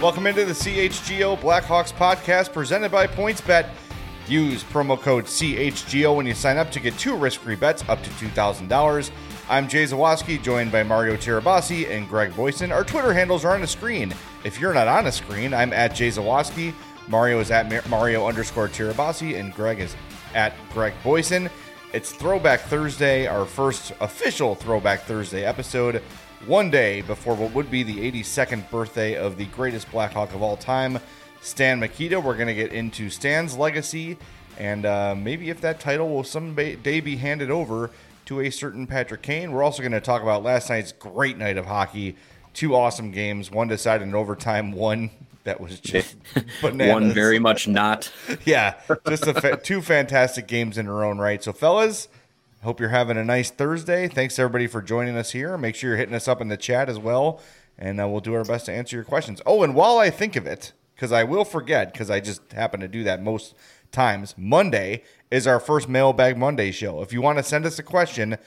Welcome into the CHGO Blackhawks podcast presented by PointsBet. Use promo code CHGO when you sign up to get 2 risk-free bets up to $2,000. I'm Jay Zawaski, joined by Mario Tirabassi and Greg Boyson. Our Twitter handles are on the screen. If you're not on the screen, I'm at Jay Zawaski. Mario is at Mario_Tirabassi, and Greg is at Greg Boyson. It's Throwback Thursday, our first official Throwback Thursday episode, one day before what would be the 82nd birthday of the greatest Blackhawk of all time, Stan Mikita. We're going to get into Stan's legacy, and maybe if that title will someday be handed over to a certain Patrick Kane. We're also going to talk about last night's great night of hockey. 2 awesome games, one decided in overtime, one that was just bananas. One very much not. Yeah, just 2 fantastic games in their own right. So, fellas, hope you're having a nice Thursday. Thanks, everybody, for joining us here. Make sure you're hitting us up in the chat as well, and we'll do our best to answer your questions. Oh, and while I think of it, because I will forget, because I just happen to do that most times, Monday is our first Mailbag Monday show. If you want to send us a question,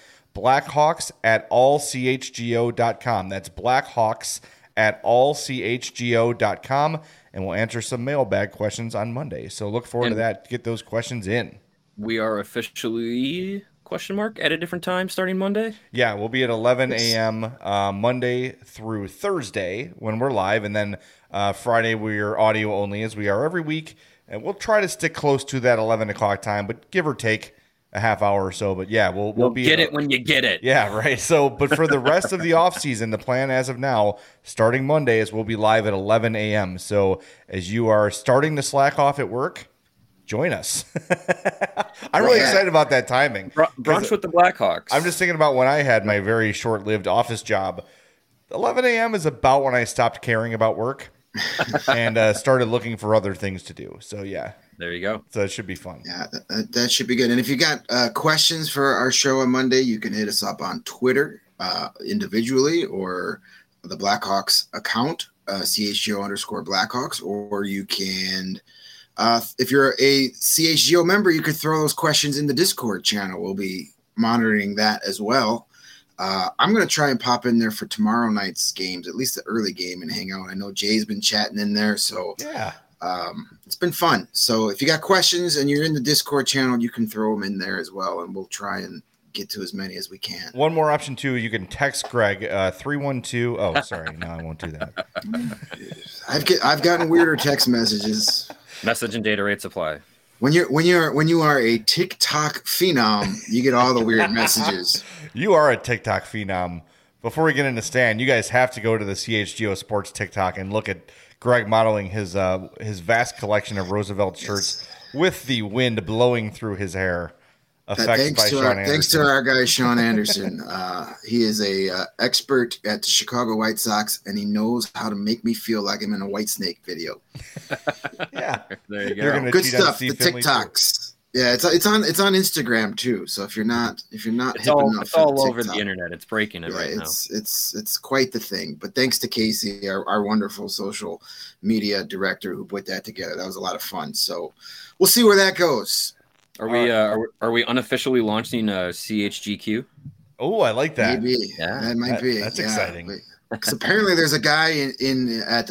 blackhawks@allchgo.com. That's blackhawks@allchgo.com, and we'll answer some mailbag questions on Monday. So look forward to that. Get those questions in. We are officially, at a different time starting Monday? Yeah, we'll be at 11 a.m. Monday through Thursday when we're live, and then Friday we're audio only, as we are every week. And we'll try to stick close to that 11 o'clock time, but give or take a half hour or so. But yeah, we'll be get it when you get it. Yeah, right. So, but for the rest of the off season, the plan as of now, starting Monday, is we'll be live at 11 a.m. So as you are starting to slack off at work, join us. I'm really excited about that timing. Brunch with the Blackhawks. I'm just thinking about when I had my very short-lived office job. 11 a.m. is about when I stopped caring about work and started looking for other things to do. So, yeah. There you go. So it should be fun. Yeah, that should be good. And if you got questions for our show on Monday, you can hit us up on Twitter individually or the Blackhawks account, CHGO_Blackhawks, or you can, if you're a CHGO member, you could throw those questions in the Discord channel. We'll be monitoring that as well. I'm going to try and pop in there for tomorrow night's games, at least the early game, and hang out. I know Jay's been chatting in there, so yeah. It's been fun. So if you got questions and you're in the Discord channel, you can throw them in there as well, and we'll try and get to as many as we can. One more option, too. You can text Greg, 312. Oh, sorry. No, I won't do that. I've gotten weirder text messages. Message and data rate supply. When you are a TikTok phenom, you get all the weird messages. You are a TikTok phenom. Before we get into Stan, you guys have to go to the CHGO Sports TikTok and look at Greg modeling his vast collection of Roosevelt shirts with the wind blowing through his hair. Thanks to our guy Sean Anderson. He is a expert at the Chicago White Sox, and he knows how to make me feel like I'm in a Whitesnake video. Yeah, there you go. Good stuff. The TikToks. Yeah, it's on Instagram too. So if you're not hip enough, it's all over the internet. It's breaking it right now. It's quite the thing. But thanks to Casey, our wonderful social media director, who put that together. That was a lot of fun. So we'll see where that goes. Are we unofficially launching CHGQ? Oh, I like that. Maybe. Yeah, that might be. That's exciting. Because apparently there's a guy at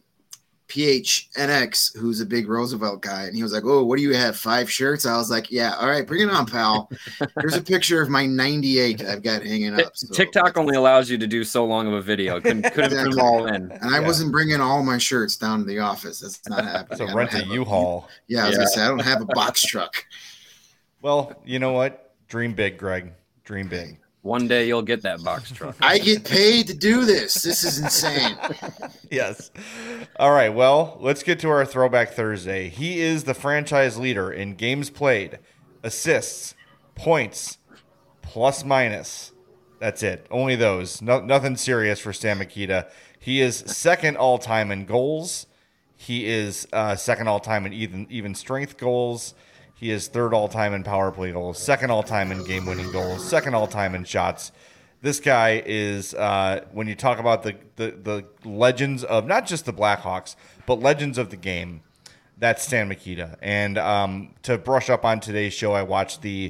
PHNX who's a big Roosevelt guy, and he was like, "Oh, what do you have? 5 shirts?" I was like, "Yeah, all right, bring it on, pal." Here's a picture of my 98 I've got hanging up. So. TikTok only allows you to do so long of a video. Couldn't put them all in. And I wasn't bringing all my shirts down to the office. That's not happening. So rent a U-Haul. Yeah, I was gonna say I don't have a box truck. Well, you know what? Dream big, Greg. Dream big. One day you'll get that box truck. I get paid to do this. This is insane. Yes. All right. Well, let's get to our Throwback Thursday. He is the franchise leader in games played, assists, points, plus minus. That's it. Only those. Nothing serious for Stan Mikita. He is second all-time in goals. He is second all-time in even strength goals. He is third all-time in power play goals, second all-time in game-winning goals, second all-time in shots. This guy is, when you talk about the legends of not just the Blackhawks, but legends of the game, that's Stan Mikita. And to brush up on today's show, I watched the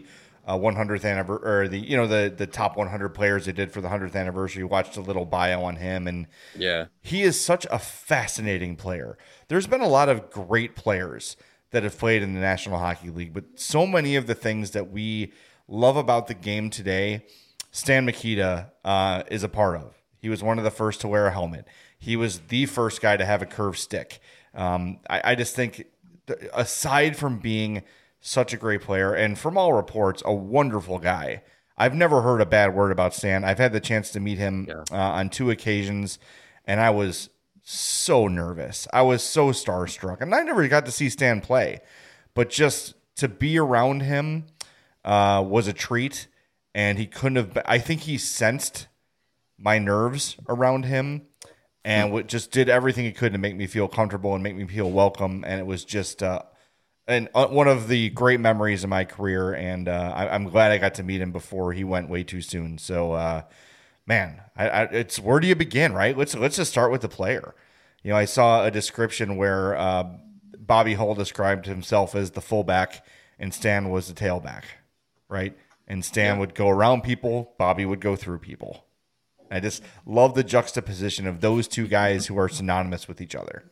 100th anniversary, or the top 100 players they did for the 100th anniversary. Watched a little bio on him, and Yeah. he is such a fascinating player. There's been a lot of great players that have played in the National Hockey League, but so many of the things that we love about the game today, Stan Mikita is a part of. He was one of the first to wear a helmet. He was the first guy to have a curved stick. I just think, aside from being such a great player, and from all reports, a wonderful guy, I've never heard a bad word about Stan. I've had the chance to meet him on 2 occasions, and I was so nervous. I was so starstruck. And I never got to see Stan play, but just to be around him was a treat. And he couldn't have, I think he sensed my nerves around him and just did everything he could to make me feel comfortable and make me feel welcome. And it was just one of the great memories of my career. And I'm glad I got to meet him before he went way too soon. So, man, it's where do you begin, right? Let's just start with the player. I saw a description where Bobby Hull described himself as the fullback and Stan was the tailback, right? And Stan would go around people, Bobby would go through people. I just love the juxtaposition of those two guys who are synonymous with each other.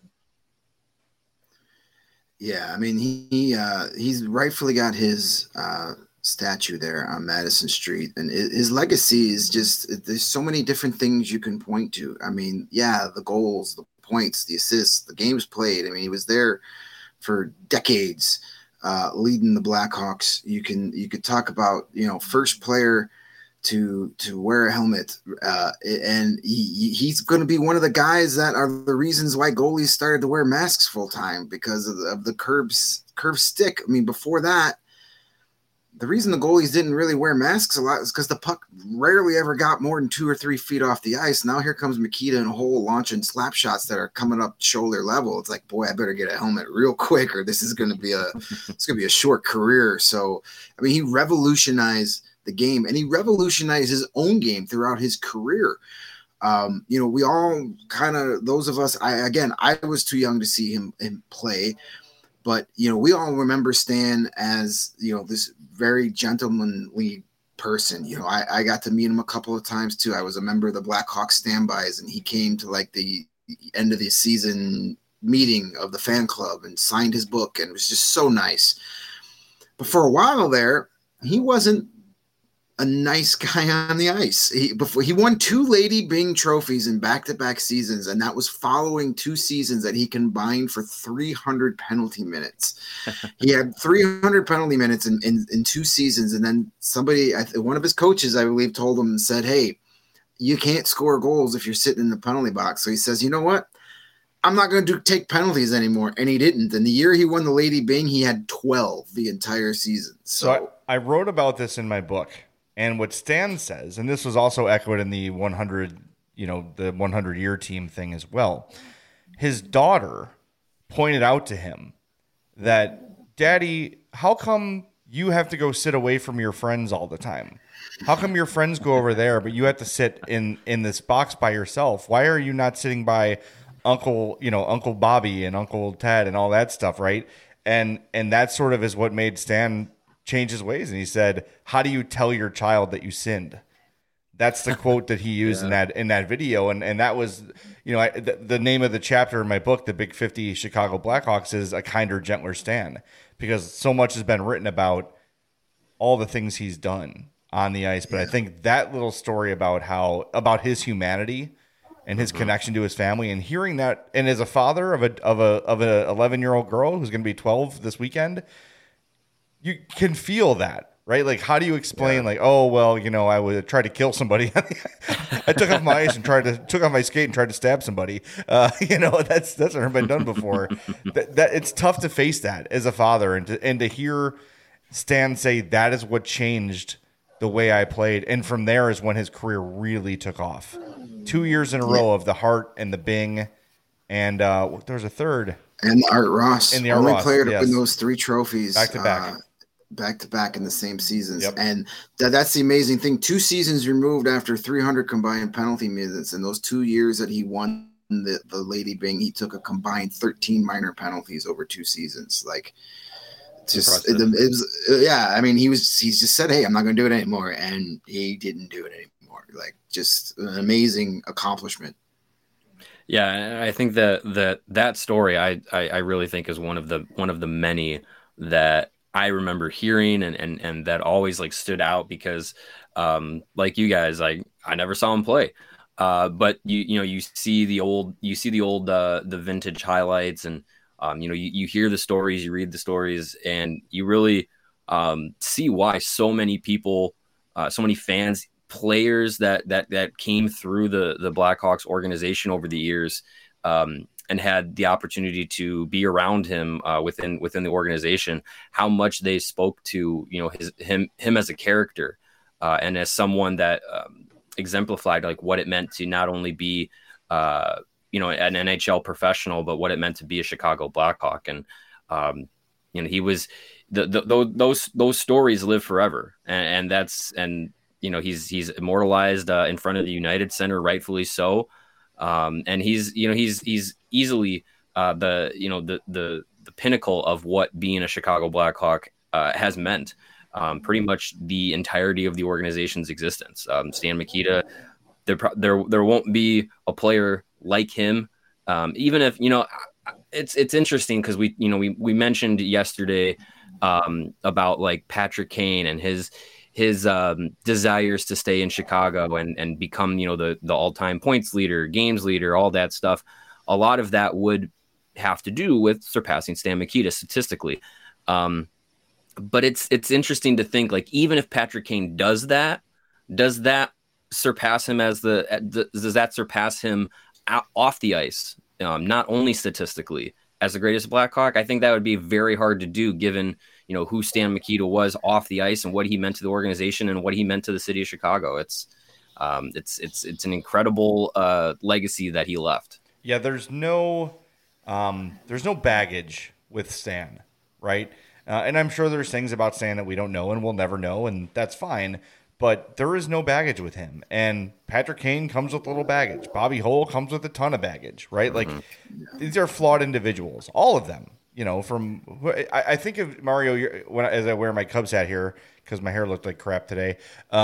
Yeah, I mean, he's rightfully got his statue there on Madison Street, and his legacy is just, there's so many different things you can point to. I mean, yeah, the goals, the points, the assists, the games played. I mean, he was there for decades, leading the Blackhawks. You could talk about, first player to wear a helmet, and he's going to be one of the guys that are the reasons why goalies started to wear masks full time, because of the curved stick. I mean, before that, the reason the goalies didn't really wear masks a lot is because the puck rarely ever got more than 2 or 3 feet off the ice. Now here comes Mikita and Hull launching slap shots that are coming up shoulder level. It's like, boy, I better get a helmet real quick, or this is going to be a short career. So, I mean, he revolutionized the game, and he revolutionized his own game throughout his career. We all kind of, those of us, I was too young to see him play. But, we all remember Stan as, this very gentlemanly person. I got to meet him a couple of times too. I was a member of the Blackhawks standbys, and he came to like the end of the season meeting of the fan club and signed his book, and it was just so nice. But for a while there, he wasn't a nice guy on the ice. He won 2 Lady Byng trophies in back-to-back seasons, and that was following 2 seasons that he combined for 300 penalty minutes. He had 300 penalty minutes in 2 seasons, and then one of his coaches, I believe, told him and said, "Hey, you can't score goals if you're sitting in the penalty box." So he says, "You know what? I'm not going to take penalties anymore," and he didn't. And the year he won the Lady Byng, he had 12 the entire season. So I wrote about this in my book. And what Stan says, and this was also echoed in the 100, the 100-year team thing as well. His daughter pointed out to him that, "Daddy, how come you have to go sit away from your friends all the time? How come your friends go over there, but you have to sit in this box by yourself? Why are you not sitting by Uncle Bobby and Uncle Ted and all that stuff, right?" And that sort of is what made Stan change his ways. And he said, "How do you tell your child that you sinned?" That's the quote that he used in that video. And that was, the name of the chapter in my book, The Big 50 Chicago Blackhawks, is A Kinder, Gentler Stan, because so much has been written about all the things he's done on the ice. But I think that little story about his humanity and his connection to his family, and hearing that, and as a father of an 11-year-old girl who's going to be 12 this weekend, you can feel that, right? Like, how do you explain, oh, well, I would try to kill somebody. I took off my ice and took off my skate and tried to stab somebody. That's never been done before. that it's tough to face that as a father, and to hear Stan say that is what changed the way I played. And from there is when his career really took off. 2 years in a row of the Hart and the Byng, and there was a third. And the Art Ross. And the Art Ross, player to win those 3 trophies. Back to back in the same seasons. Yep. And that's the amazing thing. 2 seasons removed after 300 combined penalty minutes. And those 2 years that he won the Lady Byng, he took a combined 13 minor penalties over 2 seasons. Like, just it was yeah. I mean, he just said, "Hey, I'm not going to do it anymore," and he didn't do it anymore. Like, just an amazing accomplishment. Yeah, I think that story I really think is one of the many that I remember hearing and that always like stood out because like you guys, I never saw him play. But you see the old the vintage highlights, and you hear the stories, you read the stories, and you really see why so many people, so many fans, players that came through the Blackhawks organization over the years, and had the opportunity to be around him within the organization, how much they spoke to him as a character, and as someone that exemplified like what it meant to not only be an NHL professional, but what it meant to be a Chicago Blackhawk. And he was those stories live forever, and he's immortalized in front of the United Center, rightfully so. And he's easily the pinnacle of what being a Chicago Blackhawk has meant. Pretty much the entirety of the organization's existence. Stan Mikita, there won't be a player like him. Even if it's interesting because we mentioned yesterday about like Patrick Kane and his desires to stay in Chicago and become the all-time points leader, games leader, all that stuff. A lot of that would have to do with surpassing Stan Mikita statistically. But it's interesting to think, like, even if Patrick Kane does that surpass him does that surpass him off the ice, not only statistically as the greatest Blackhawk? I think that would be very hard to do given who Stan Mikita was off the ice and what he meant to the organization and what he meant to the city of Chicago. It's an incredible legacy that he left. Yeah, there's no baggage with Stan, right? And I'm sure there's things about Stan that we don't know and we'll never know, and that's fine. But there is no baggage with him. And Patrick Kane comes with a little baggage. Bobby Hull comes with a ton of baggage, right? Like, these are flawed individuals, all of them. I think of Mario as I wear my Cubs hat here because my hair looked like crap today.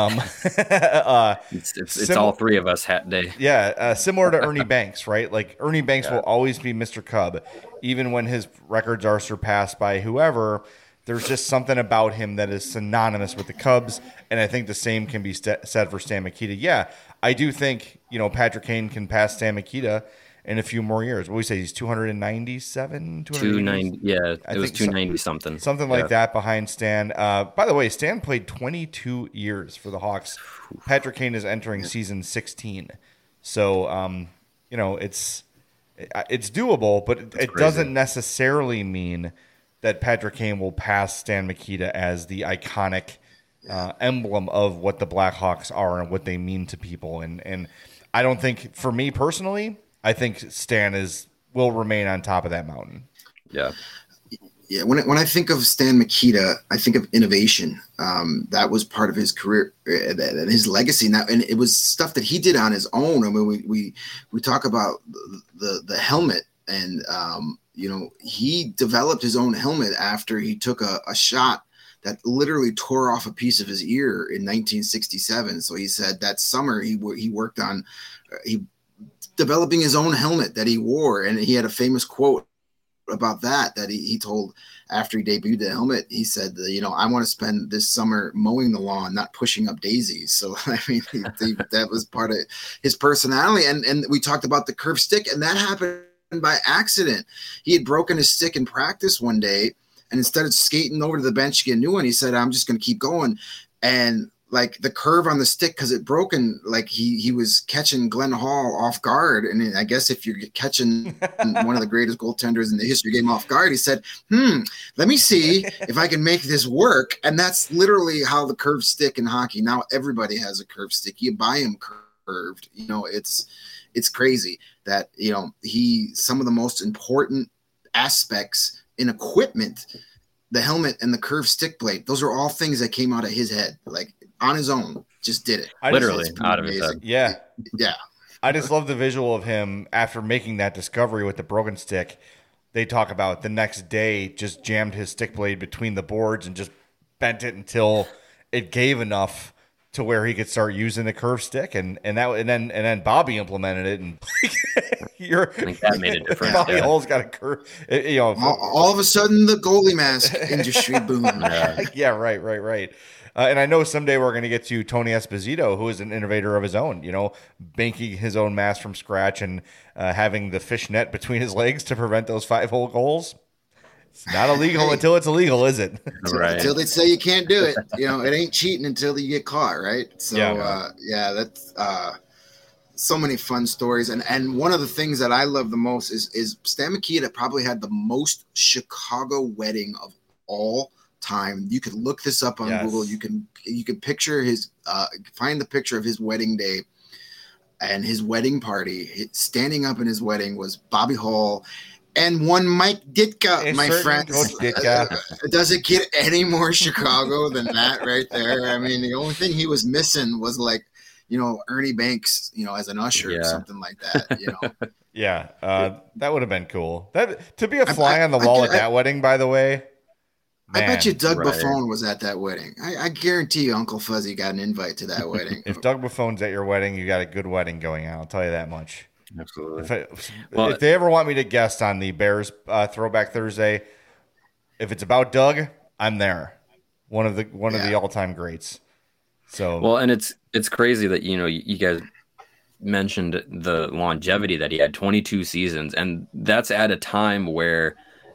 It's all three of us hat day. Yeah, similar to Ernie Banks, right? Like, Ernie Banks will always be Mr. Cub, even when his records are surpassed by whoever. There's just something about him that is synonymous with the Cubs, and I think the same can be said for Stan Mikita. Yeah, I do think Patrick Kane can pass Stan Mikita in a few more years. What do we say? He's 297? 290, yeah, it was 290 something. Something like that behind Stan. By the way, Stan played 22 years for the Hawks. Patrick Kane is entering season 16. So, it's doable, but it doesn't necessarily mean that Patrick Kane will pass Stan Mikita as the iconic emblem of what the Blackhawks are and what they mean to people. And I don't think, for me personally, I think Stan will remain on top of that mountain. Yeah. Yeah. When I think of Stan Mikita, I think of innovation. That was part of his career and his legacy. And it was stuff that he did on his own. I mean, we talk about the helmet, and he developed his own helmet after he took a shot that literally tore off a piece of his ear in 1967. So he said that summer he worked on developing his own helmet that he wore. And he had a famous quote about that he told after he debuted the helmet. He said, I want to spend this summer mowing the lawn, not pushing up daisies. So, I mean, that was part of his personality. And we talked about the curved stick, and that happened by accident. He had broken his stick in practice one day, and instead of skating over to the bench to get a new one, he said, I'm just going to keep going. And like the curve on the stick, because it broken, like he was catching Glenn Hall off guard. And I guess if you're catching one of the greatest goaltenders in the history of the game off guard, he said, let me see if I can make this work. And that's literally how the curved stick in hockey. Now everybody has a curved stick. You buy them curved. It's crazy that, some of the most important aspects in equipment, the helmet and the curved stick blade, those are all things that came out of his head, like on his own, just did it. Literally out of his head. Yeah. Yeah. I just love the visual of him after making that discovery with the broken stick, they talk about the next day just jammed his stick blade between the boards and just bent it until it gave enough to where he could start using the curved stick, and then Bobby implemented it, and I think that made a difference. Bobby Hull's got a curve, all of a sudden the goalie mask industry boom. Yeah, right. And I know someday we're going to get to Tony Esposito, who is an innovator of his own, banking his own mask from scratch and having the fish net between his legs to prevent those 5-hole goals. It's not illegal until it's illegal, is it? Right. Until they say you can't do it. It ain't cheating until you get caught, right? So, that's so many fun stories. And one of the things that I love the most is Stan Mikita probably had the most Chicago wedding of all time. You could look this up on Google. You can picture his find the picture of his wedding day and his wedding party. Standing up in his wedding was Bobby Hull and one Mike Ditka, my friends. Does it get any more Chicago than that right there? I mean, the only thing he was missing was Ernie Banks, as an usher or something like that. Yeah, that would have been cool. That to be a fly on the wall at that wedding, by the way. Man, I bet you Doug Buffon was at that wedding. I guarantee you Uncle Fuzzy got an invite to that wedding. If Doug Buffon's at your wedding, you got a good wedding going on. I'll tell you that much. Absolutely. If they ever want me to guest on the Bears Throwback Thursday, if it's about Doug, I'm there. One of the all-time greats. So and it's crazy that you guys mentioned the longevity that he had, 22 seasons, and that's at a time where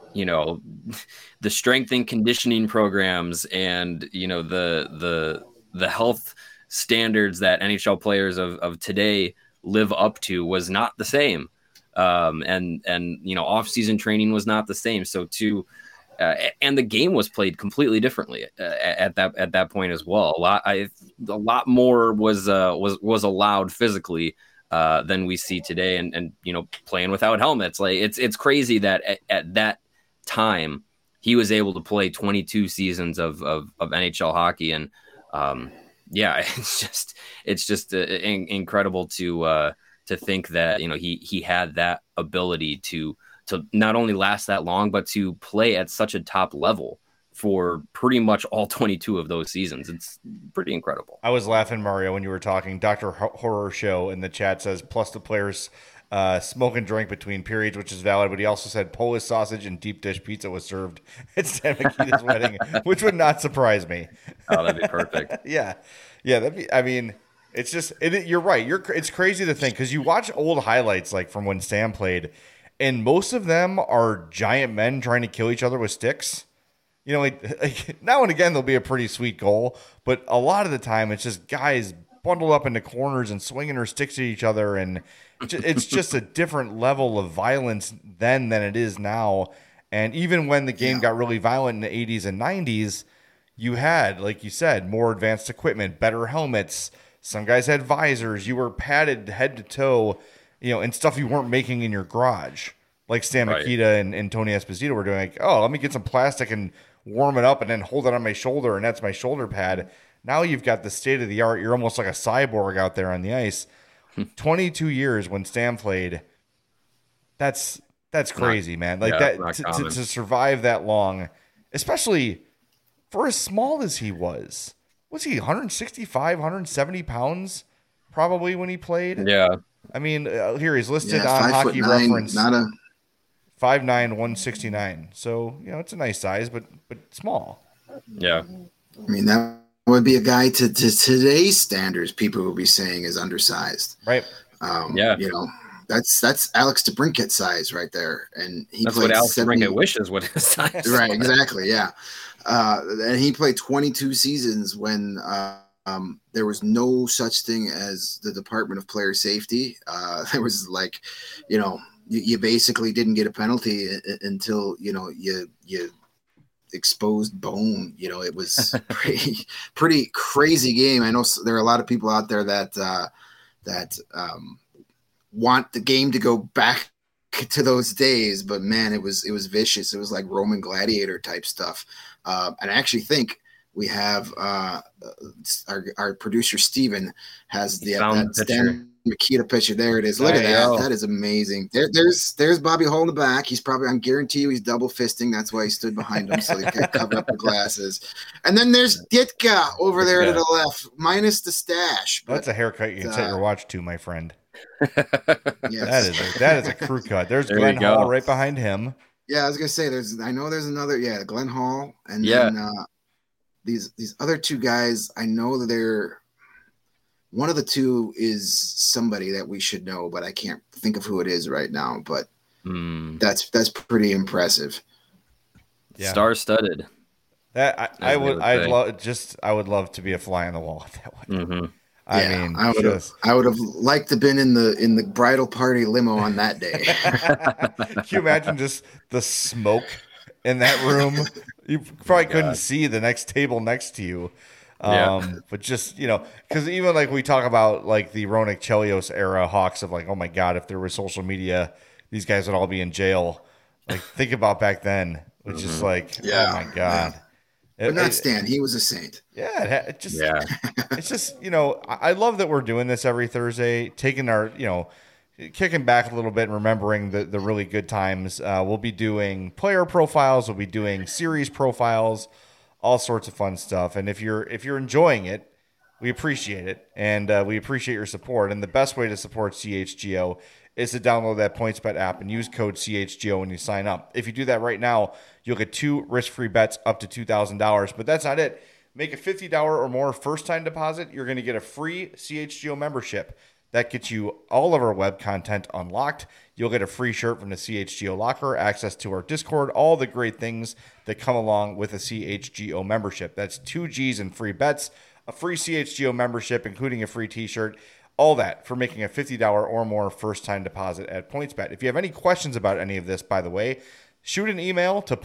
the strength and conditioning programs and the health standards that NHL players of today live up to was not the same, and off-season training was not the same. So and the game was played completely differently at that point as well. A lot more was allowed physically than we see today, and playing without helmets. Like it's crazy that at that time he was able to play 22 seasons of NHL hockey, and it's just incredible to think that he had that ability to not only last that long, but to play at such a top level for pretty much all 22 of those seasons. It's pretty incredible. I was laughing, Mario, when you were talking. Dr. Horror Show in the chat says, plus the players smoke and drink between periods, which is valid, but he also said Polish sausage and deep dish pizza was served at Stan Mikita's wedding, which would not surprise me. Oh, that'd be perfect. Yeah, it's just, you're right. It's crazy to think, because you watch old highlights like from when Stan played, and most of them are giant men trying to kill each other with sticks. Like now and again, there'll be a pretty sweet goal, but a lot of the time it's just guys bundled up into corners and swinging their sticks at each other, and it's just a different level of violence then than it is now. And even when the game got really violent in the 80s and 90s, you had, like you said, more advanced equipment, better helmets. Some guys had visors. You were padded head to toe, and stuff you weren't making in your garage. Like Stan Mikita and Tony Esposito were doing, like, oh, let me get some plastic and warm it up and then hold it on my shoulder, and that's my shoulder pad. Now you've got the state of the art. You're almost like a cyborg out there on the ice. 22 years when Stan played. That's crazy, man. Like to survive that long, especially for as small as he was. Was he 165, 170 pounds probably when he played? Yeah. I mean, here he's listed on Hockey Reference. 5'9", 169. So, it's a nice size, but small. Yeah. I mean, that would be a guy to today's standards, people would be saying is undersized. Right. That's Alex DeBrincat size right there. And that's what Alex DeBrincat wishes what his size. Right, exactly, yeah. And he played 22 seasons when there was no such thing as the Department of Player Safety. There was you basically didn't get a penalty until, you exposed bone. It was pretty crazy game. I know there are a lot of people out there that want the game to go back to those days, but man, it was vicious. It was like Roman gladiator type stuff. And I actually think we have our producer Steven has Makita picture. There it is. Look at that. That is amazing. There's Bobby Hull in the back. He's probably, I guarantee you, he's double fisting. That's why he stood behind him, so he could cover up the glasses. And then there's Ditka over there to the left, minus the stash. That's a haircut you can set your watch to, my friend. Yes. That is a crew cut. There's Glenn Hall right behind him. Yeah, I was gonna say there's another, Glenn Hall, and then these other two guys. I know that they're. One of the two is somebody that we should know, but I can't think of who it is right now. But that's pretty impressive. Yeah. Star-studded. That I would love to be a fly on the wall at that one. Mm-hmm. I would have liked to been in the bridal party limo on that day. Can you imagine just the smoke in that room? You probably couldn't see the next table next to you. But just, because even like we talk about like the Ronak Chelios era Hawks of like, oh my God, if there was social media, these guys would all be in jail. Like think about back then, which is like, oh my God. But not Stan. He was a saint. Yeah. It's just, I love that we're doing this every Thursday, taking our, kicking back a little bit and remembering the really good times. We'll be doing player profiles. We'll be doing series profiles. All sorts of fun stuff. And if you're enjoying it, we appreciate it. And we appreciate your support. And the best way to support CHGO is to download that PointsBet app and use code CHGO when you sign up. If you do that right now, you'll get 2 risk-free bets up to $2,000. But that's not it. Make a $50 or more first-time deposit. You're going to get a free CHGO membership. That gets you all of our web content unlocked. You'll get a free shirt from the CHGO locker, access to our Discord, all the great things that come along with a CHGO membership. That's 2 G's and free bets, a free CHGO membership, including a free t-shirt, all that for making a $50 or more first-time deposit at PointsBet. If you have any questions about any of this, by the way, shoot an email to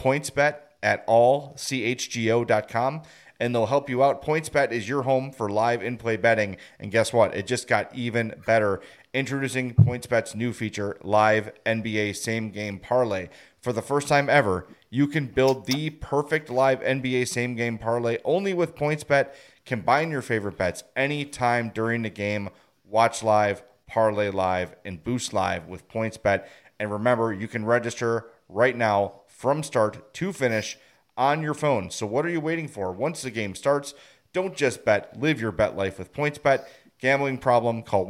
pointsbet@allchgo.com. and they'll help you out. PointsBet is your home for live in-play betting. And guess what? It just got even better. Introducing PointsBet's new feature, Live NBA Same Game Parlay. For the first time ever, you can build the perfect live NBA Same Game Parlay only with PointsBet. Combine your favorite bets anytime during the game. Watch live, parlay live, and boost live with PointsBet. And remember, you can register right now from start to finish on your phone. So what are you waiting for? Once the game starts, don't just bet. Live your bet life with PointsBet. Gambling problem? Call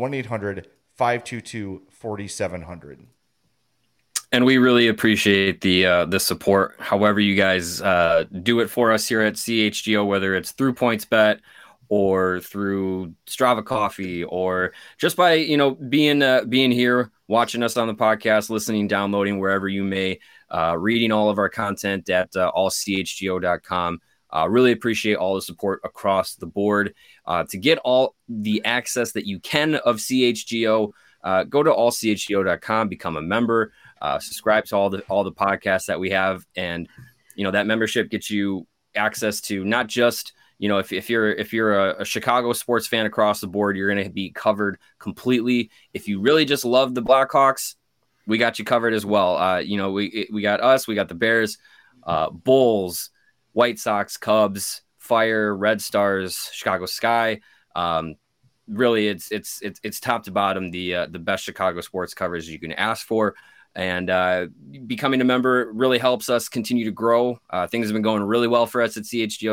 1-800-522-4700. And we really appreciate the support. However you guys do it for us here at CHGO, whether it's through PointsBet or through Strava Coffee, or just by being here, watching us on the podcast, listening, downloading wherever you may. Reading all of our content at allchgo.com. Really appreciate all the support across the board. To get all the access that you can of CHGO, go to allchgo.com, become a member, subscribe to all the podcasts that we have, and that membership gets you access to not just if you're a Chicago sports fan across the board, you're going to be covered completely. If you really just love the Blackhawks, we got you covered as well. We got us, we got the Bears, Bulls, White Sox, Cubs, Fire, Red Stars, Chicago Sky. Really, it's top to bottom the best Chicago sports coverage you can ask for. And becoming a member really helps us continue to grow. Things have been going really well for us at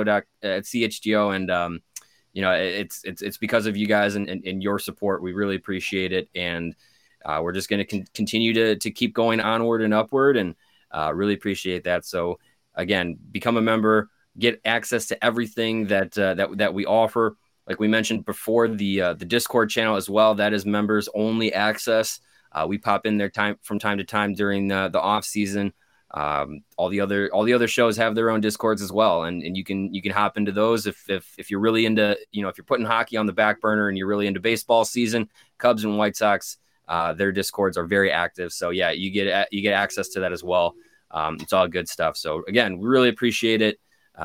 CHGO, and it's because of you guys and your support. We really appreciate it, and we're just going to continue to keep going onward and upward, and really appreciate that. So again, become a member, get access to everything that we offer. Like we mentioned before, the Discord channel as well. That is members only access. We pop in there from time to time during the off season. All the other shows have their own Discords as well, and you can hop into those if you're really into if you're putting hockey on the back burner and you're really into baseball season. Cubs and White Sox, their Discords are very active, so yeah, you get access to that as well. It's all good stuff. So again, we really appreciate it.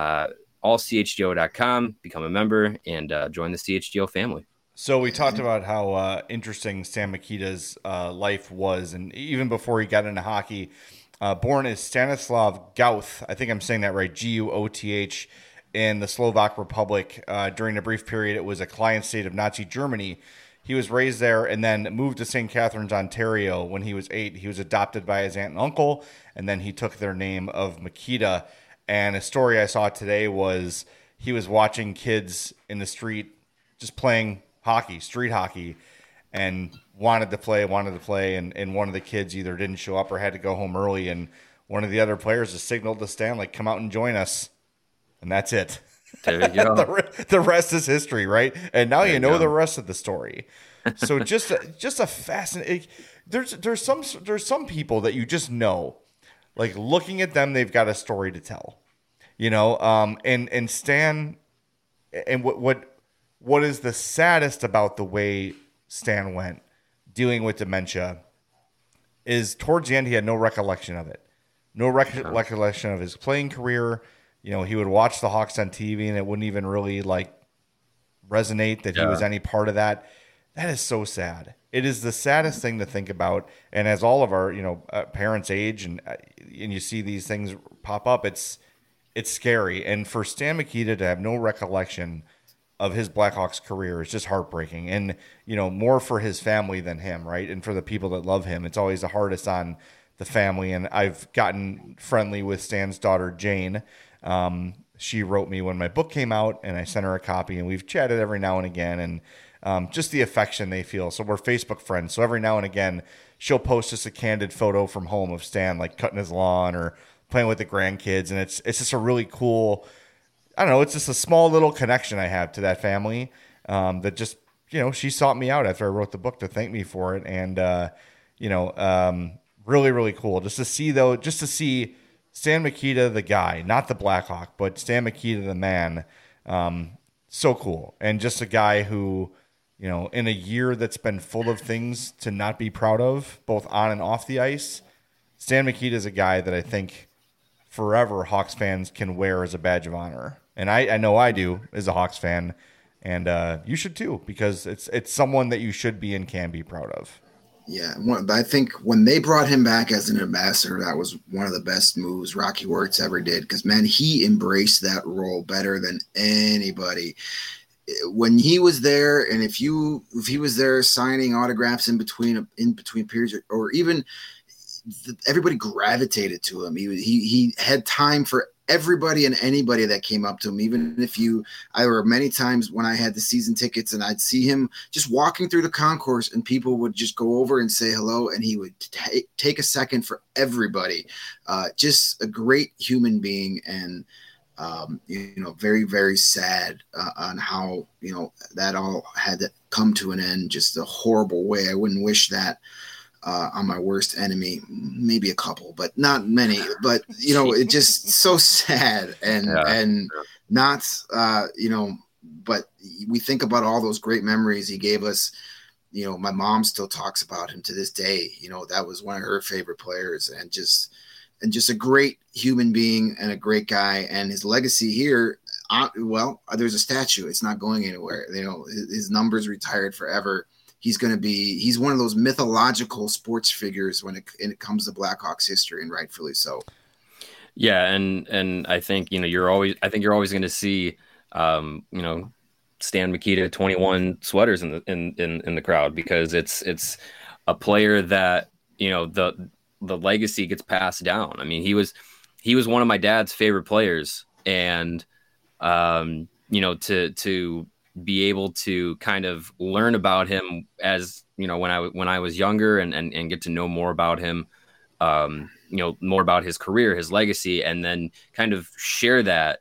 Allchgo.com, become a member, and join the CHGO family. So we talked about how interesting Stan Mikita's life was, and even before he got into hockey, born as Stanislav Gauth, I think I'm saying that right, Guoth, in the Slovak Republic. During a brief period, it was a client state of Nazi Germany. he was raised there and then moved to St. Catharines, Ontario when he was 8. He was adopted by his aunt and uncle, and then he took their name of Makita. And a story I saw today was he was watching kids in the street just playing hockey, street hockey, and wanted to play, and one of the kids either didn't show up or had to go home early, and one of the other players just signaled to Stan, like, come out and join us. And that's it. There you go. The rest is history, right? And now you know go. the rest of the story. So just a fascinating. There's some people that you just know, like looking at them, they've got a story to tell, and Stan, and what is the saddest about the way Stan went dealing with dementia is towards the end he had no recollection of it, no recollection of his playing career. He would watch the Hawks on TV and it wouldn't even really like resonate that he was any part of that. That is so sad. It is the saddest thing to think about. And as all of our, parents age and you see these things pop up, it's scary. And for Stan Mikita to have no recollection of his Blackhawks career is just heartbreaking. And, more for his family than him, right? And for the people that love him, it's always the hardest on the family. And I've gotten friendly with Stan's daughter, Jane. She wrote me when my book came out and I sent her a copy, and we've chatted every now and again, and just the affection they feel. So we're Facebook friends. So every now and again, she'll post us a candid photo from home of Stan, like cutting his lawn or playing with the grandkids. And it's just a really cool, I don't know, it's just a small little connection I have to that family, that just, she sought me out after I wrote the book to thank me for it. And, really, really cool just to see Stan Mikita, the guy, not the Blackhawk, but Stan Mikita, the man. So cool. And just a guy who, in a year that's been full of things to not be proud of, both on and off the ice, Stan Mikita is a guy that I think forever Hawks fans can wear as a badge of honor. And I know I do as a Hawks fan. And you should too, because it's someone that you should be and can be proud of. Yeah, I think when they brought him back as an ambassador, that was one of the best moves Rocky Wirtz ever did, because, man, he embraced that role better than anybody. When he was there, and if he was there signing autographs in between periods, or even everybody gravitated to him. He had time for everybody and anybody that came up to him. Even if I were many times when I had the season tickets and I'd see him just walking through the concourse and people would just go over and say hello, and he would take a second for everybody. Just a great human being, and very, very sad on how that all had to come to an end, just a horrible way. I wouldn't wish that on my worst enemy, maybe a couple, but not many. But it's just so sad, and not But we think about all those great memories he gave us. My mom still talks about him to this day. That was one of her favorite players, and just a great human being and a great guy. And his legacy here, there's a statue. It's not going anywhere. His number's retired forever. He's one of those mythological sports figures when it comes to Blackhawks history, and rightfully so. Yeah, and I think you're always going to see Stan Mikita 21 sweaters in the crowd, because it's a player that the legacy gets passed down. I mean, he was one of my dad's favorite players, and to be able to kind of learn about him as when I was younger, and get to know more about him, more about his career, his legacy, and then kind of share that,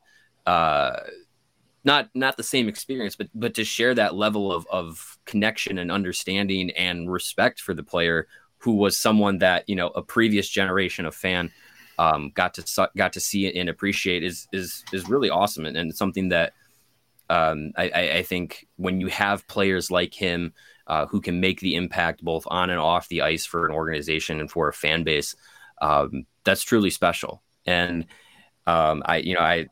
not the same experience, but to share that level of connection and understanding and respect for the player, who was someone that a previous generation of fan got to see and appreciate is really awesome, and something that I think when you have players like him who can make the impact both on and off the ice for an organization and for a fan base, that's truly special. And I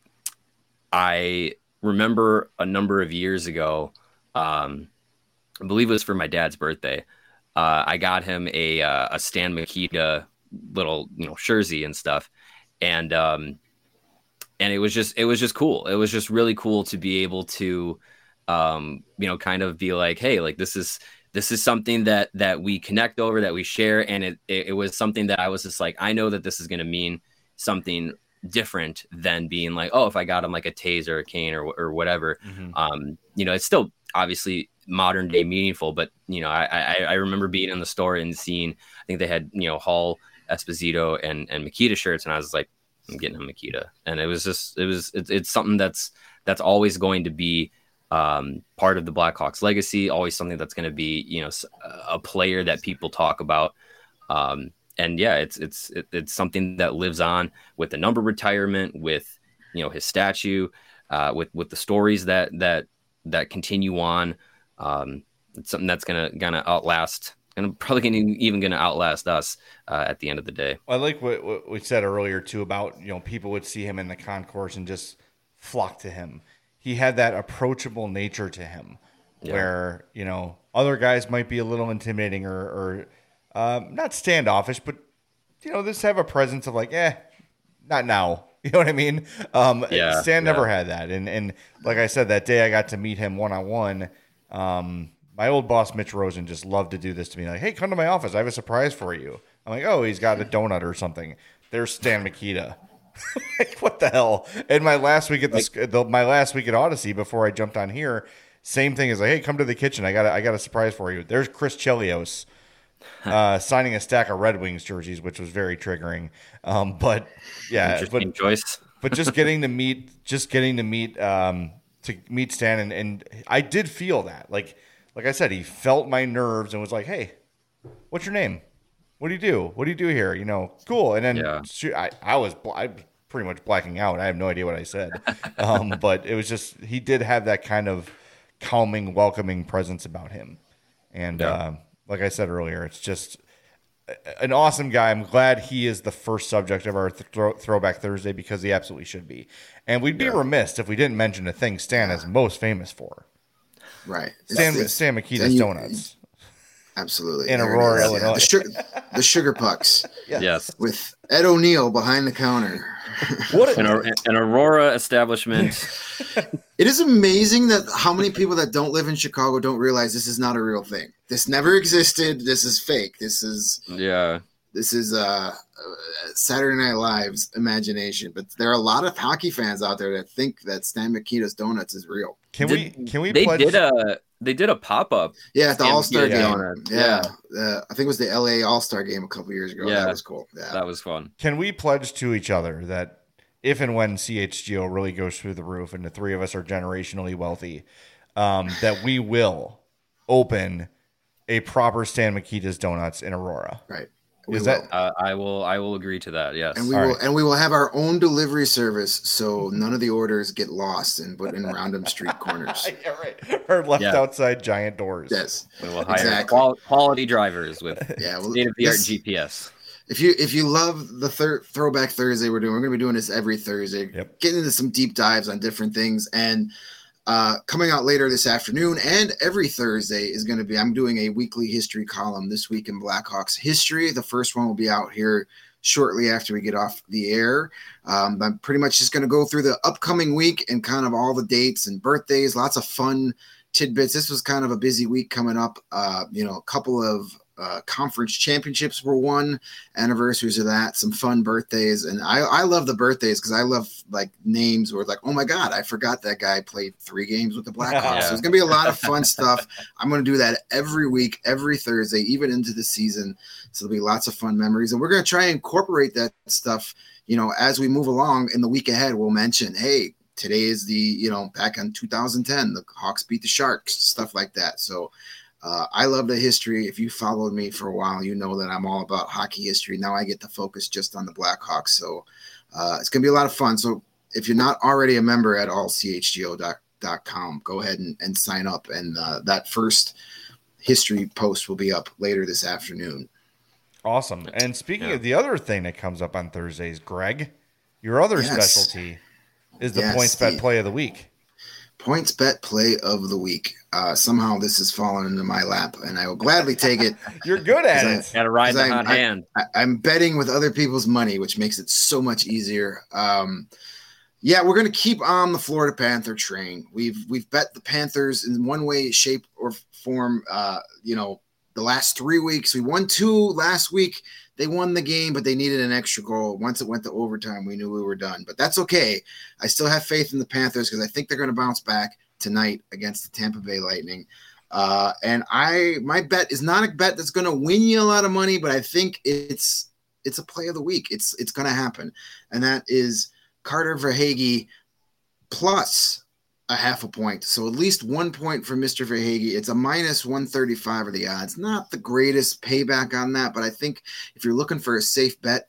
remember a number of years ago, I believe it was for my dad's birthday, I got him a Stan Mikita little jersey and stuff, and it was just cool. It was just really cool to be able to kind of be like, hey, like this is something that we connect over, that we share. And it was something that I was just like, I know that this is going to mean something different than being like, oh, if I got him like a tase or a cane or whatever. It's still obviously modern day meaningful, but I remember being in the store and seeing, I think they had Hall, Esposito and Makita shirts, and I was like, I'm getting a Makita. And it's something that's always going to be part of the Blackhawks legacy, always something that's going to be a player that people talk about. And yeah, it's something that lives on with the number retirement, with his statue, with the stories that continue on. It's something that's gonna outlast, and probably even gonna outlast us at the end of the day. I like what we said earlier too about people would see him in the concourse and just flock to him. He had that approachable nature to him, where other guys might be a little intimidating or not standoffish, but just have a presence of like, not now. You know what I mean? Stan never had that, and like I said, that day I got to meet him one-on-one. My old boss Mitch Rosen just loved to do this to me, like, hey, come to my office, I have a surprise for you. I'm like, oh, he's got a donut or something. There's Stan Mikita. Like, what the hell? And my last week at Odyssey, before I jumped on here, same thing is like, hey, come to the kitchen. I got a surprise for you. There's Chris Chelios signing a stack of Red Wings jerseys, which was very triggering. But yeah, interesting choice. But just getting to meet Stan, and I did feel that, like I said, he felt my nerves and was like, hey, what's your name? What do you do? What do you do here? Cool. And then I was pretty much blacking out. I have no idea what I said. But it was just, he did have that kind of calming, welcoming presence about him. And like I said earlier, it's just an awesome guy. I'm glad he is the first subject of our Throwback Thursday, because he absolutely should be. And we'd be remiss if we didn't mention the thing Stan is most famous for. Right. Stan Mikita's Donuts. Absolutely. In Aurora, Illinois. The Sugar Pucks. Yes. With Ed O'Neill behind the counter. What an Aurora establishment. It is amazing that how many people that don't live in Chicago don't realize this is not a real thing. This never existed. This is fake. This is Saturday Night Live's imagination. But there are a lot of hockey fans out there that think that Stan Mikita's Donuts is real. Can we They did a pop-up. Yeah, at the All-Star game. Yeah. I think it was the LA All-Star game a couple years ago. Yeah. That was cool. Yeah. That was fun. Can we pledge to each other that if and when CHGO really goes through the roof and the three of us are generationally wealthy, that we will open a proper Stan Mikita's Donuts in Aurora? Right. I will agree to that. Yes. And we will have our own delivery service, so none of the orders get lost in random street corners. Yeah, right. Or left outside giant doors. Yes. We will hire quality drivers with state-of-the-art GPS. If you love the Throwback Thursday we're going to be doing this every Thursday. Yep. Getting into some deep dives on different things, and coming out later this afternoon and every Thursday is going to be, I'm doing a weekly history column this week in Blackhawks history. The first one will be out here shortly after we get off the air. I'm pretty much just going to go through the upcoming week and kind of all the dates and birthdays, lots of fun tidbits. This was kind of a busy week coming up. A couple of conference championships were won, anniversaries of that, some fun birthdays. And I love the birthdays because I love like names where it's like, oh my God, I forgot that guy played 3 games with the Blackhawks. So it's going to be a lot of fun stuff. I'm going to do that every week, every Thursday, even into the season. So there'll be lots of fun memories. And we're going to try and incorporate that stuff, as we move along in the week ahead. We'll mention, hey, today is the, back in 2010, the Hawks beat the Sharks, stuff like that. So I love the history. If you followed me for a while, you know that I'm all about hockey history. Now I get to focus just on the Blackhawks. So it's going to be a lot of fun. So if you're not already a member at allchgo.com, go ahead and sign up. And that first history post will be up later this afternoon. Awesome. And speaking of the other thing that comes up on Thursdays, Greg, your other specialty is the PointsBet play of the week. PointsBet play of the week. Somehow this has fallen into my lap, and I will gladly take it. You're good at it. Got to ride the hot hand. I'm betting with other people's money, which makes it so much easier. Yeah, we're going to keep on the Florida Panther train. We've bet the Panthers in one way, shape, or form. The last 3 weeks, we won 2 last week. They won the game, but they needed an extra goal. Once it went to overtime, we knew we were done. But that's okay. I still have faith in the Panthers because I think they're going to bounce back tonight against the Tampa Bay Lightning. And my bet is not a bet that's going to win you a lot of money, but I think it's a play of the week. It's going to happen, and that is Carter Verhaeghe plus a half a point. So at least 1 point for Mr. Verhaeghe. It's a minus 135 are the odds. Not the greatest payback on that, but I think if you're looking for a safe bet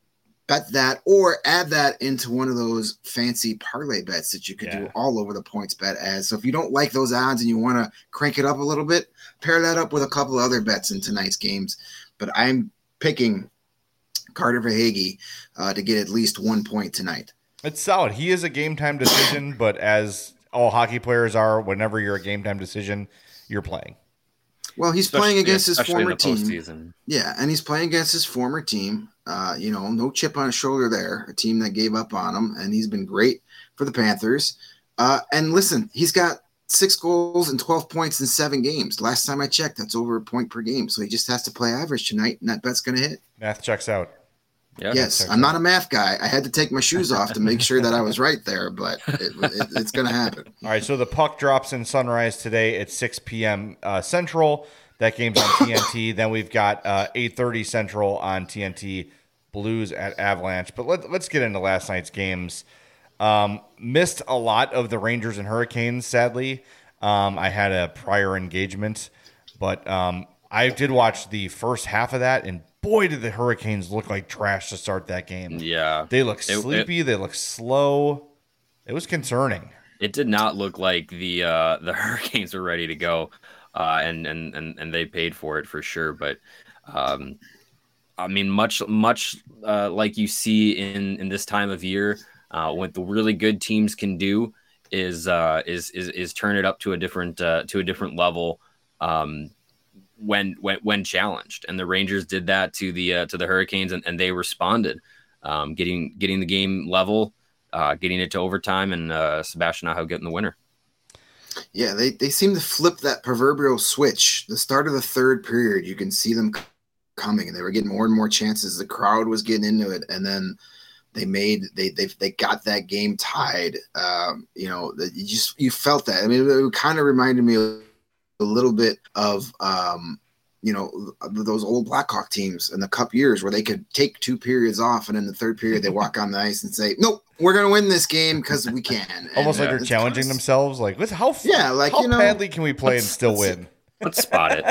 that or add that into one of those fancy parlay bets that you could do all over the points bet as. So if you don't like those odds and you want to crank it up a little bit, pair that up with a couple other bets in tonight's games. But I'm picking Carter Verhaeghe to get at least 1 point tonight. It's solid. He is a game time decision, but as all hockey players are, whenever you're a game time decision, you're playing. Well, he's playing against his former team. Postseason. Yeah, and he's playing against his former team. No chip on his shoulder there. A team that gave up on him, and he's been great for the Panthers. And listen, he's got 6 goals and 12 points in 7 games. Last time I checked, that's over a point per game. So he just has to play average tonight, and that bet's going to hit. Math checks out. Yeah, yes, I'm not a math guy. I had to take my shoes off to make sure that I was right there, but it's going to happen. All right, so the puck drops in Sunrise today at 6 p.m. Central. That game's on TNT. Then we've got 8:30 Central on TNT, Blues at Avalanche. But let's get into last night's games. Missed a lot of the Rangers and Hurricanes, sadly. I had a prior engagement, but I did watch the first half of that, and boy, did the Hurricanes look like trash to start that game. Yeah. They look sleepy. They look slow. It was concerning. It did not look like the Hurricanes were ready to go, and they paid for it for sure. But I mean, much like you see in this time of year, what the really good teams can do is turn it up to a different level. When challenged, and the Rangers did that to the Hurricanes, and they responded, getting the game level, getting it to overtime, and Sebastian Aho getting the winner. Yeah, they seem to flip that proverbial switch. The start of the third period, you can see them coming, and they were getting more and more chances. The crowd was getting into it, and then they got that game tied. You felt that. I mean, it kind of reminded me of a little bit of those old Blackhawk teams in the Cup years where they could take 2 periods off, and in the third period they walk on the ice and say, "Nope, we're going to win this game because we can." Almost like they're challenging themselves. Like, how badly can we play and still win? Let's spot it.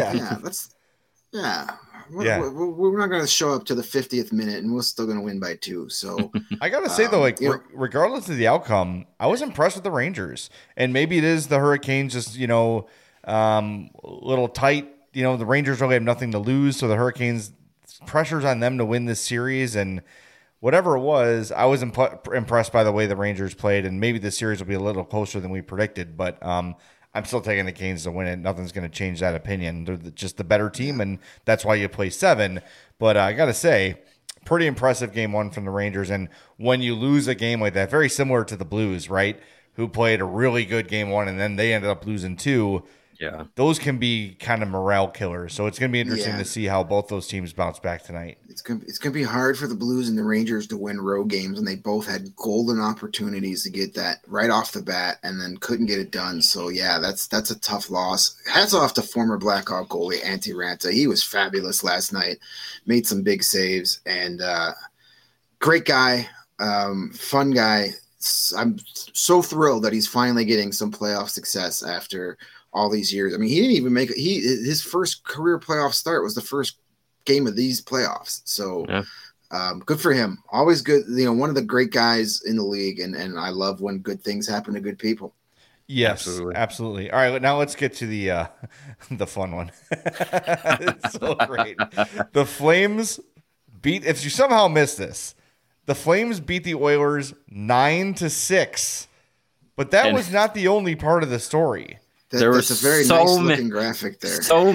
We're not going to show up to the 50th minute, and we're still going to win by 2. So I got to say though, regardless of the outcome, I was impressed with the Rangers, and maybe it is the Hurricanes just little tight. The Rangers really have nothing to lose, so the Hurricanes, pressure's on them to win this series, and whatever it was, I was impressed by the way the Rangers played, and maybe the series will be a little closer than we predicted, but I'm still taking the Canes to win it. Nothing's going to change that opinion. They're just the better team, and that's why you play 7. But I got to say, pretty impressive game 1 from the Rangers, and when you lose a game like that, very similar to the Blues, right, who played a really good game 1, and then they ended up losing 2. Yeah, those can be kind of morale killers. So it's going to be interesting to see how both those teams bounce back tonight. It's going to be hard for the Blues and the Rangers to win road games, and they both had golden opportunities to get that right off the bat, and then couldn't get it done. So yeah, that's a tough loss. Hats off to former Blackhawk goalie Antti Raanta. He was fabulous last night, made some big saves, and great guy, fun guy. I'm so thrilled that he's finally getting some playoff success after all these years. I mean, he didn't even make his first career playoff start was the first game of these playoffs. So good for him. Always good. One of the great guys in the league. And I love when good things happen to good people. Yes, absolutely. All right. Now let's get to the fun one. It's so great. The Flames if you somehow missed this, the Flames beat the Oilers 9-6, but that was not the only part of the story. That's a very nice looking graphic there. So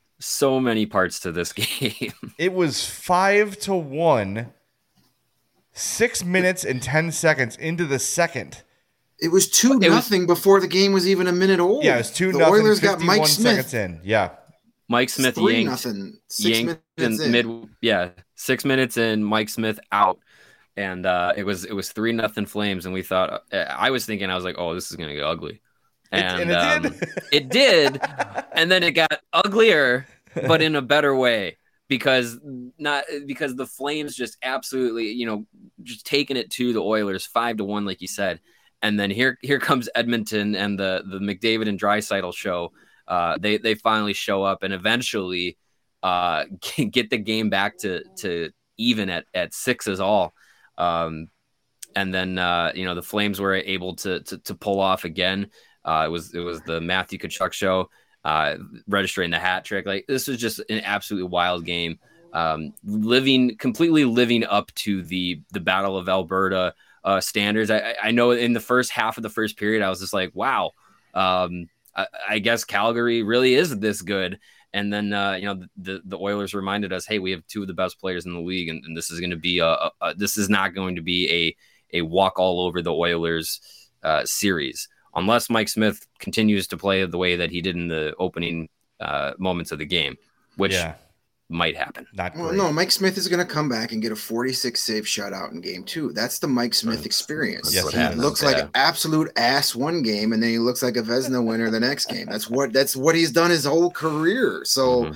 many parts to this game. It was 5-1, 6 minutes and 10 seconds into the second. It was 2-0 before the game was even a minute old. Yeah, it was 2-0. The Oilers got Mike Smith in. Yeah, Mike Smith yanked 6 minutes in. 6 minutes in, Mike Smith out, and it was 3-0 Flames, and we thought I was like, oh, this is gonna get ugly, and it did. It did, and then it got uglier, but in a better way. Because the Flames just absolutely, just taking it to the Oilers 5-1, like you said. And then here comes Edmonton and the McDavid and Draisaitl show. They finally show up and eventually get the game back to even at 6-all. And then the Flames were able to pull off again. It was the Matthew Tkachuk show, registering the hat trick. Like, this was just an absolutely wild game. Completely living up to the Battle of Alberta standards. I know in the first half of the first period, I was just like, wow, I guess Calgary really is this good. And then, the Oilers reminded us, hey, we have two of the best players in the league, and this is going to be this is not going to be a walk all over the Oilers series, unless Mike Smith continues to play the way that he did in the opening moments of the game, which might happen. No, Mike Smith is going to come back and get a 46 save shutout in game 2. That's the Mike Smith experience. Yes, he looks like an absolute ass one game, and then he looks like a Vezina winner the next game. That's what he's done his whole career. So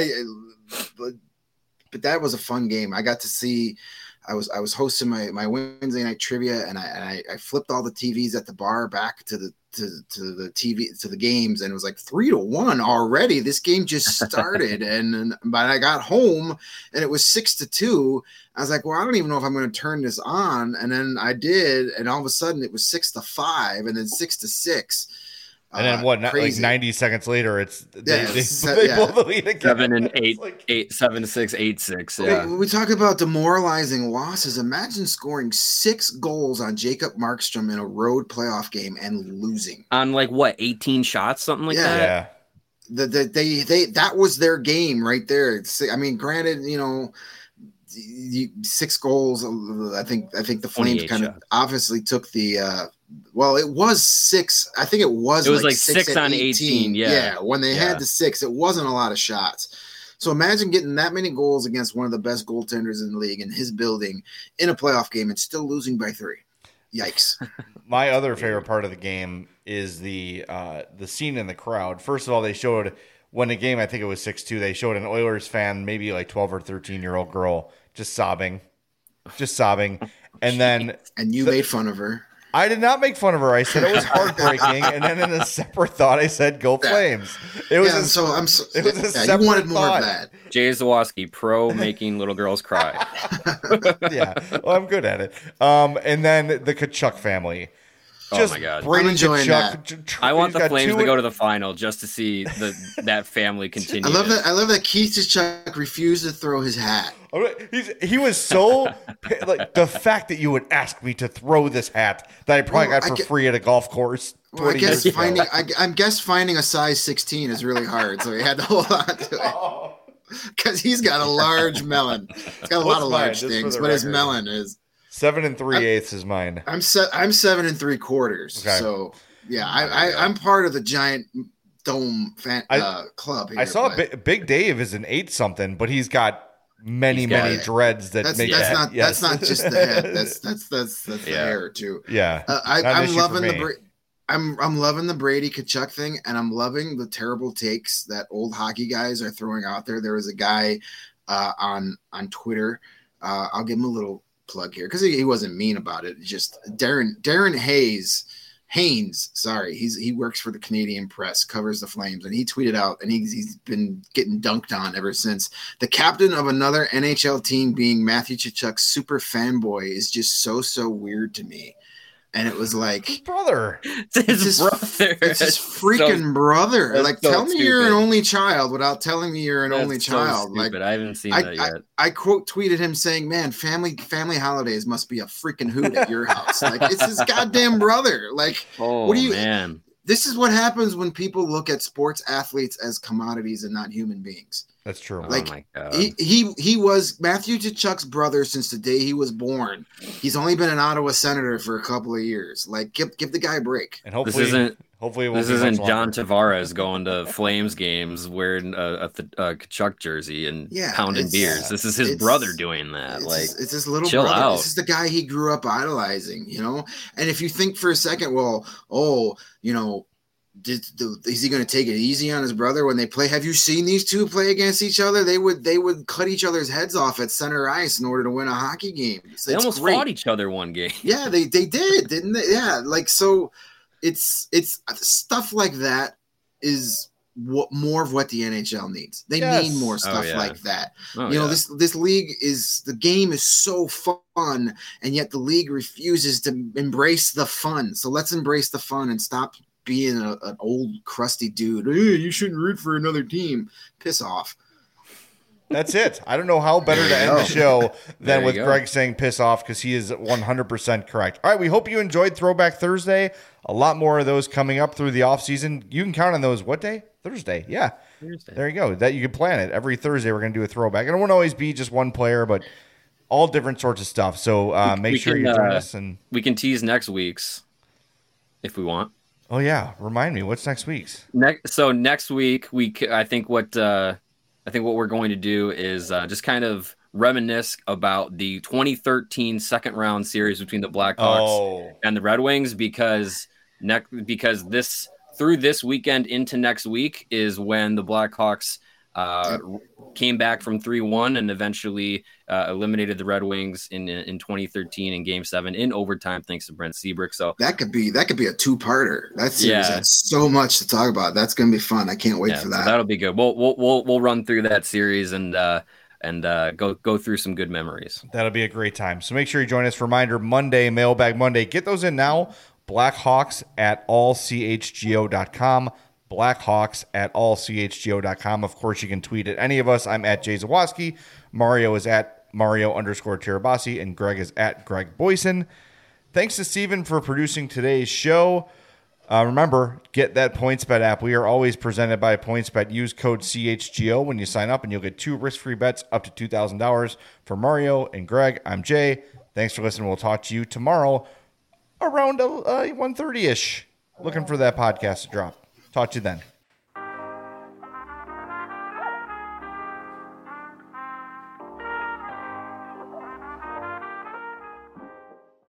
but that was a fun game. I got to see. I was hosting my Wednesday night trivia, and I flipped all the TVs at the bar back to the TV to the games, and it was like 3-1 already. This game just started, but I got home and it was 6-2. I was like, well, I don't even know if I'm going to turn this on, and then I did, and all of a sudden it was 6-5, and then 6-6. And then like 90 seconds later, they blow the lead again. 7-8, 7-6, 8-6. Yeah. We talk about demoralizing losses. Imagine scoring 6 goals on Jacob Markstrom in a road playoff game and losing on 18 shots, something like that. Yeah, that was their game right there. I mean, granted, 6 goals. I think the Flames kind of obviously took the. Well, it was 6. I think it was like 6 on 18. Yeah. When they had the 6, it wasn't a lot of shots. So imagine getting that many goals against one of the best goaltenders in the league in his building in a playoff game and still losing by 3. Yikes. My other favorite part of the game is the scene in the crowd. First of all, they showed when the game, I think it was 6-2, they showed an Oilers fan, maybe like 12 or 13-year-old girl, just sobbing. And then you made fun of her. I did not make fun of her. I said it was heartbreaking, and then in a separate thought, I said, "Go Flames!" It was you wanted more of that. Jay Zawaski, pro making little girls cry. Yeah, well, I'm good at it. And then the Tkachuk family. Just my God, I'm enjoying that. I want the Flames to go to the final just to see that family continue. I love that Keith Tkachuk refused to throw his hat. He was so like the fact that you would ask me to throw this hat that I probably got for free at a golf course. Well, I guess finding a size 16 is really hard, so he had to hold on to it because he's got a large melon. He's got a lot of large things, but his melon is 7 3/8 is mine. I'm 7 3/4. Okay. So yeah, I'm part of the giant dome club here. I saw Big Dave is an 8 something, but he's got many dreads that make that. That's not just the head. That's the hair too. Yeah, I'm loving I'm loving the Brady Tkachuk thing, and I'm loving the terrible takes that old hockey guys are throwing out there. There was a guy on Twitter. I'll give him a little plug here because he wasn't mean about it. Just Darren Haynes, sorry, he works for the Canadian Press, covers the Flames, and he tweeted out, and he's been getting dunked on ever since. The captain of another NHL team being Matthew Tkachuk's super fanboy is just so weird to me. And it was like his brother. It's his brother. It's his freaking brother. Like, tell me you're an only child without telling me you're an only child. Like, I haven't seen that yet. I quote tweeted him saying, "Man, family holidays must be a freaking hoot at your house." Like, it's his goddamn brother. Like, what do you? Man. This is what happens when people look at sports athletes as commodities and not human beings. That's true. Like, oh my God. he was Matthew Tkachuk's brother since the day he was born. He's only been an Ottawa Senator for a couple of years. Like, give the guy a break. And hopefully it won't This be isn't much John longer. Tavares going to Flames games wearing a Kachuk jersey and pounding beers. This is his brother doing that. It's his little chill brother. out. This is the guy he grew up idolizing, you know? And if you think for a second, well, you know, is he going to take it easy on his brother when they play? Have you seen these two play against each other? They would cut each other's heads off at center ice in order to win a hockey game. They almost fought each other one game. Yeah, they did, didn't they? Yeah, like, so it's stuff like that is what more of what the NHL needs. They need more stuff like that. You know, this league the game is so fun, and yet the league refuses to embrace the fun. So let's embrace the fun and stop being an old crusty dude. Hey, you shouldn't root for another team. Piss off. That's it. I don't know how better to end the show than with Greg saying piss off, because he is 100% correct. All right, we hope you enjoyed Throwback Thursday. A lot more of those coming up through the offseason. You can count on those. What day? Thursday. Yeah. Thursday. There you go. That you can plan it. Every Thursday we're going to do a throwback. And it won't always be just one player, but all different sorts of stuff. So make sure you join us. And we can tease next week's if we want. Oh, yeah. Remind me, what's next week's? Next week, I think what we're going to do is just kind of reminisce about the 2013 second round series between the Blackhawks and the Red Wings, because through this weekend into next week is when the Blackhawks came back from 3-1 and eventually eliminated the Red Wings in 2013 in Game 7 in overtime, thanks to Brent Seabrook. So that could be a two-parter. That series had so much to talk about. That's going to be fun. I can't wait for that. So that'll be good. We'll run through that series and go through some good memories. That'll be a great time. So make sure you join us. Reminder, Monday, Mailbag Monday. Get those in now. Blackhawks at allchgo.com. Blackhawks at allchgo.com. Of course, you can tweet at any of us. I'm at Jay Zawoski. Mario is at Mario_Tirabassi, and Greg is at Greg Boyson. Thanks to Steven for producing today's show. Remember, get that PointsBet app. We are always presented by PointsBet. Use code CHGO when you sign up, and you'll get 2 risk-free bets up to $2,000. For Mario and Greg, I'm Jay. Thanks for listening. We'll talk to you tomorrow around 1:30-ish. Looking for that podcast to drop. Talk to you then.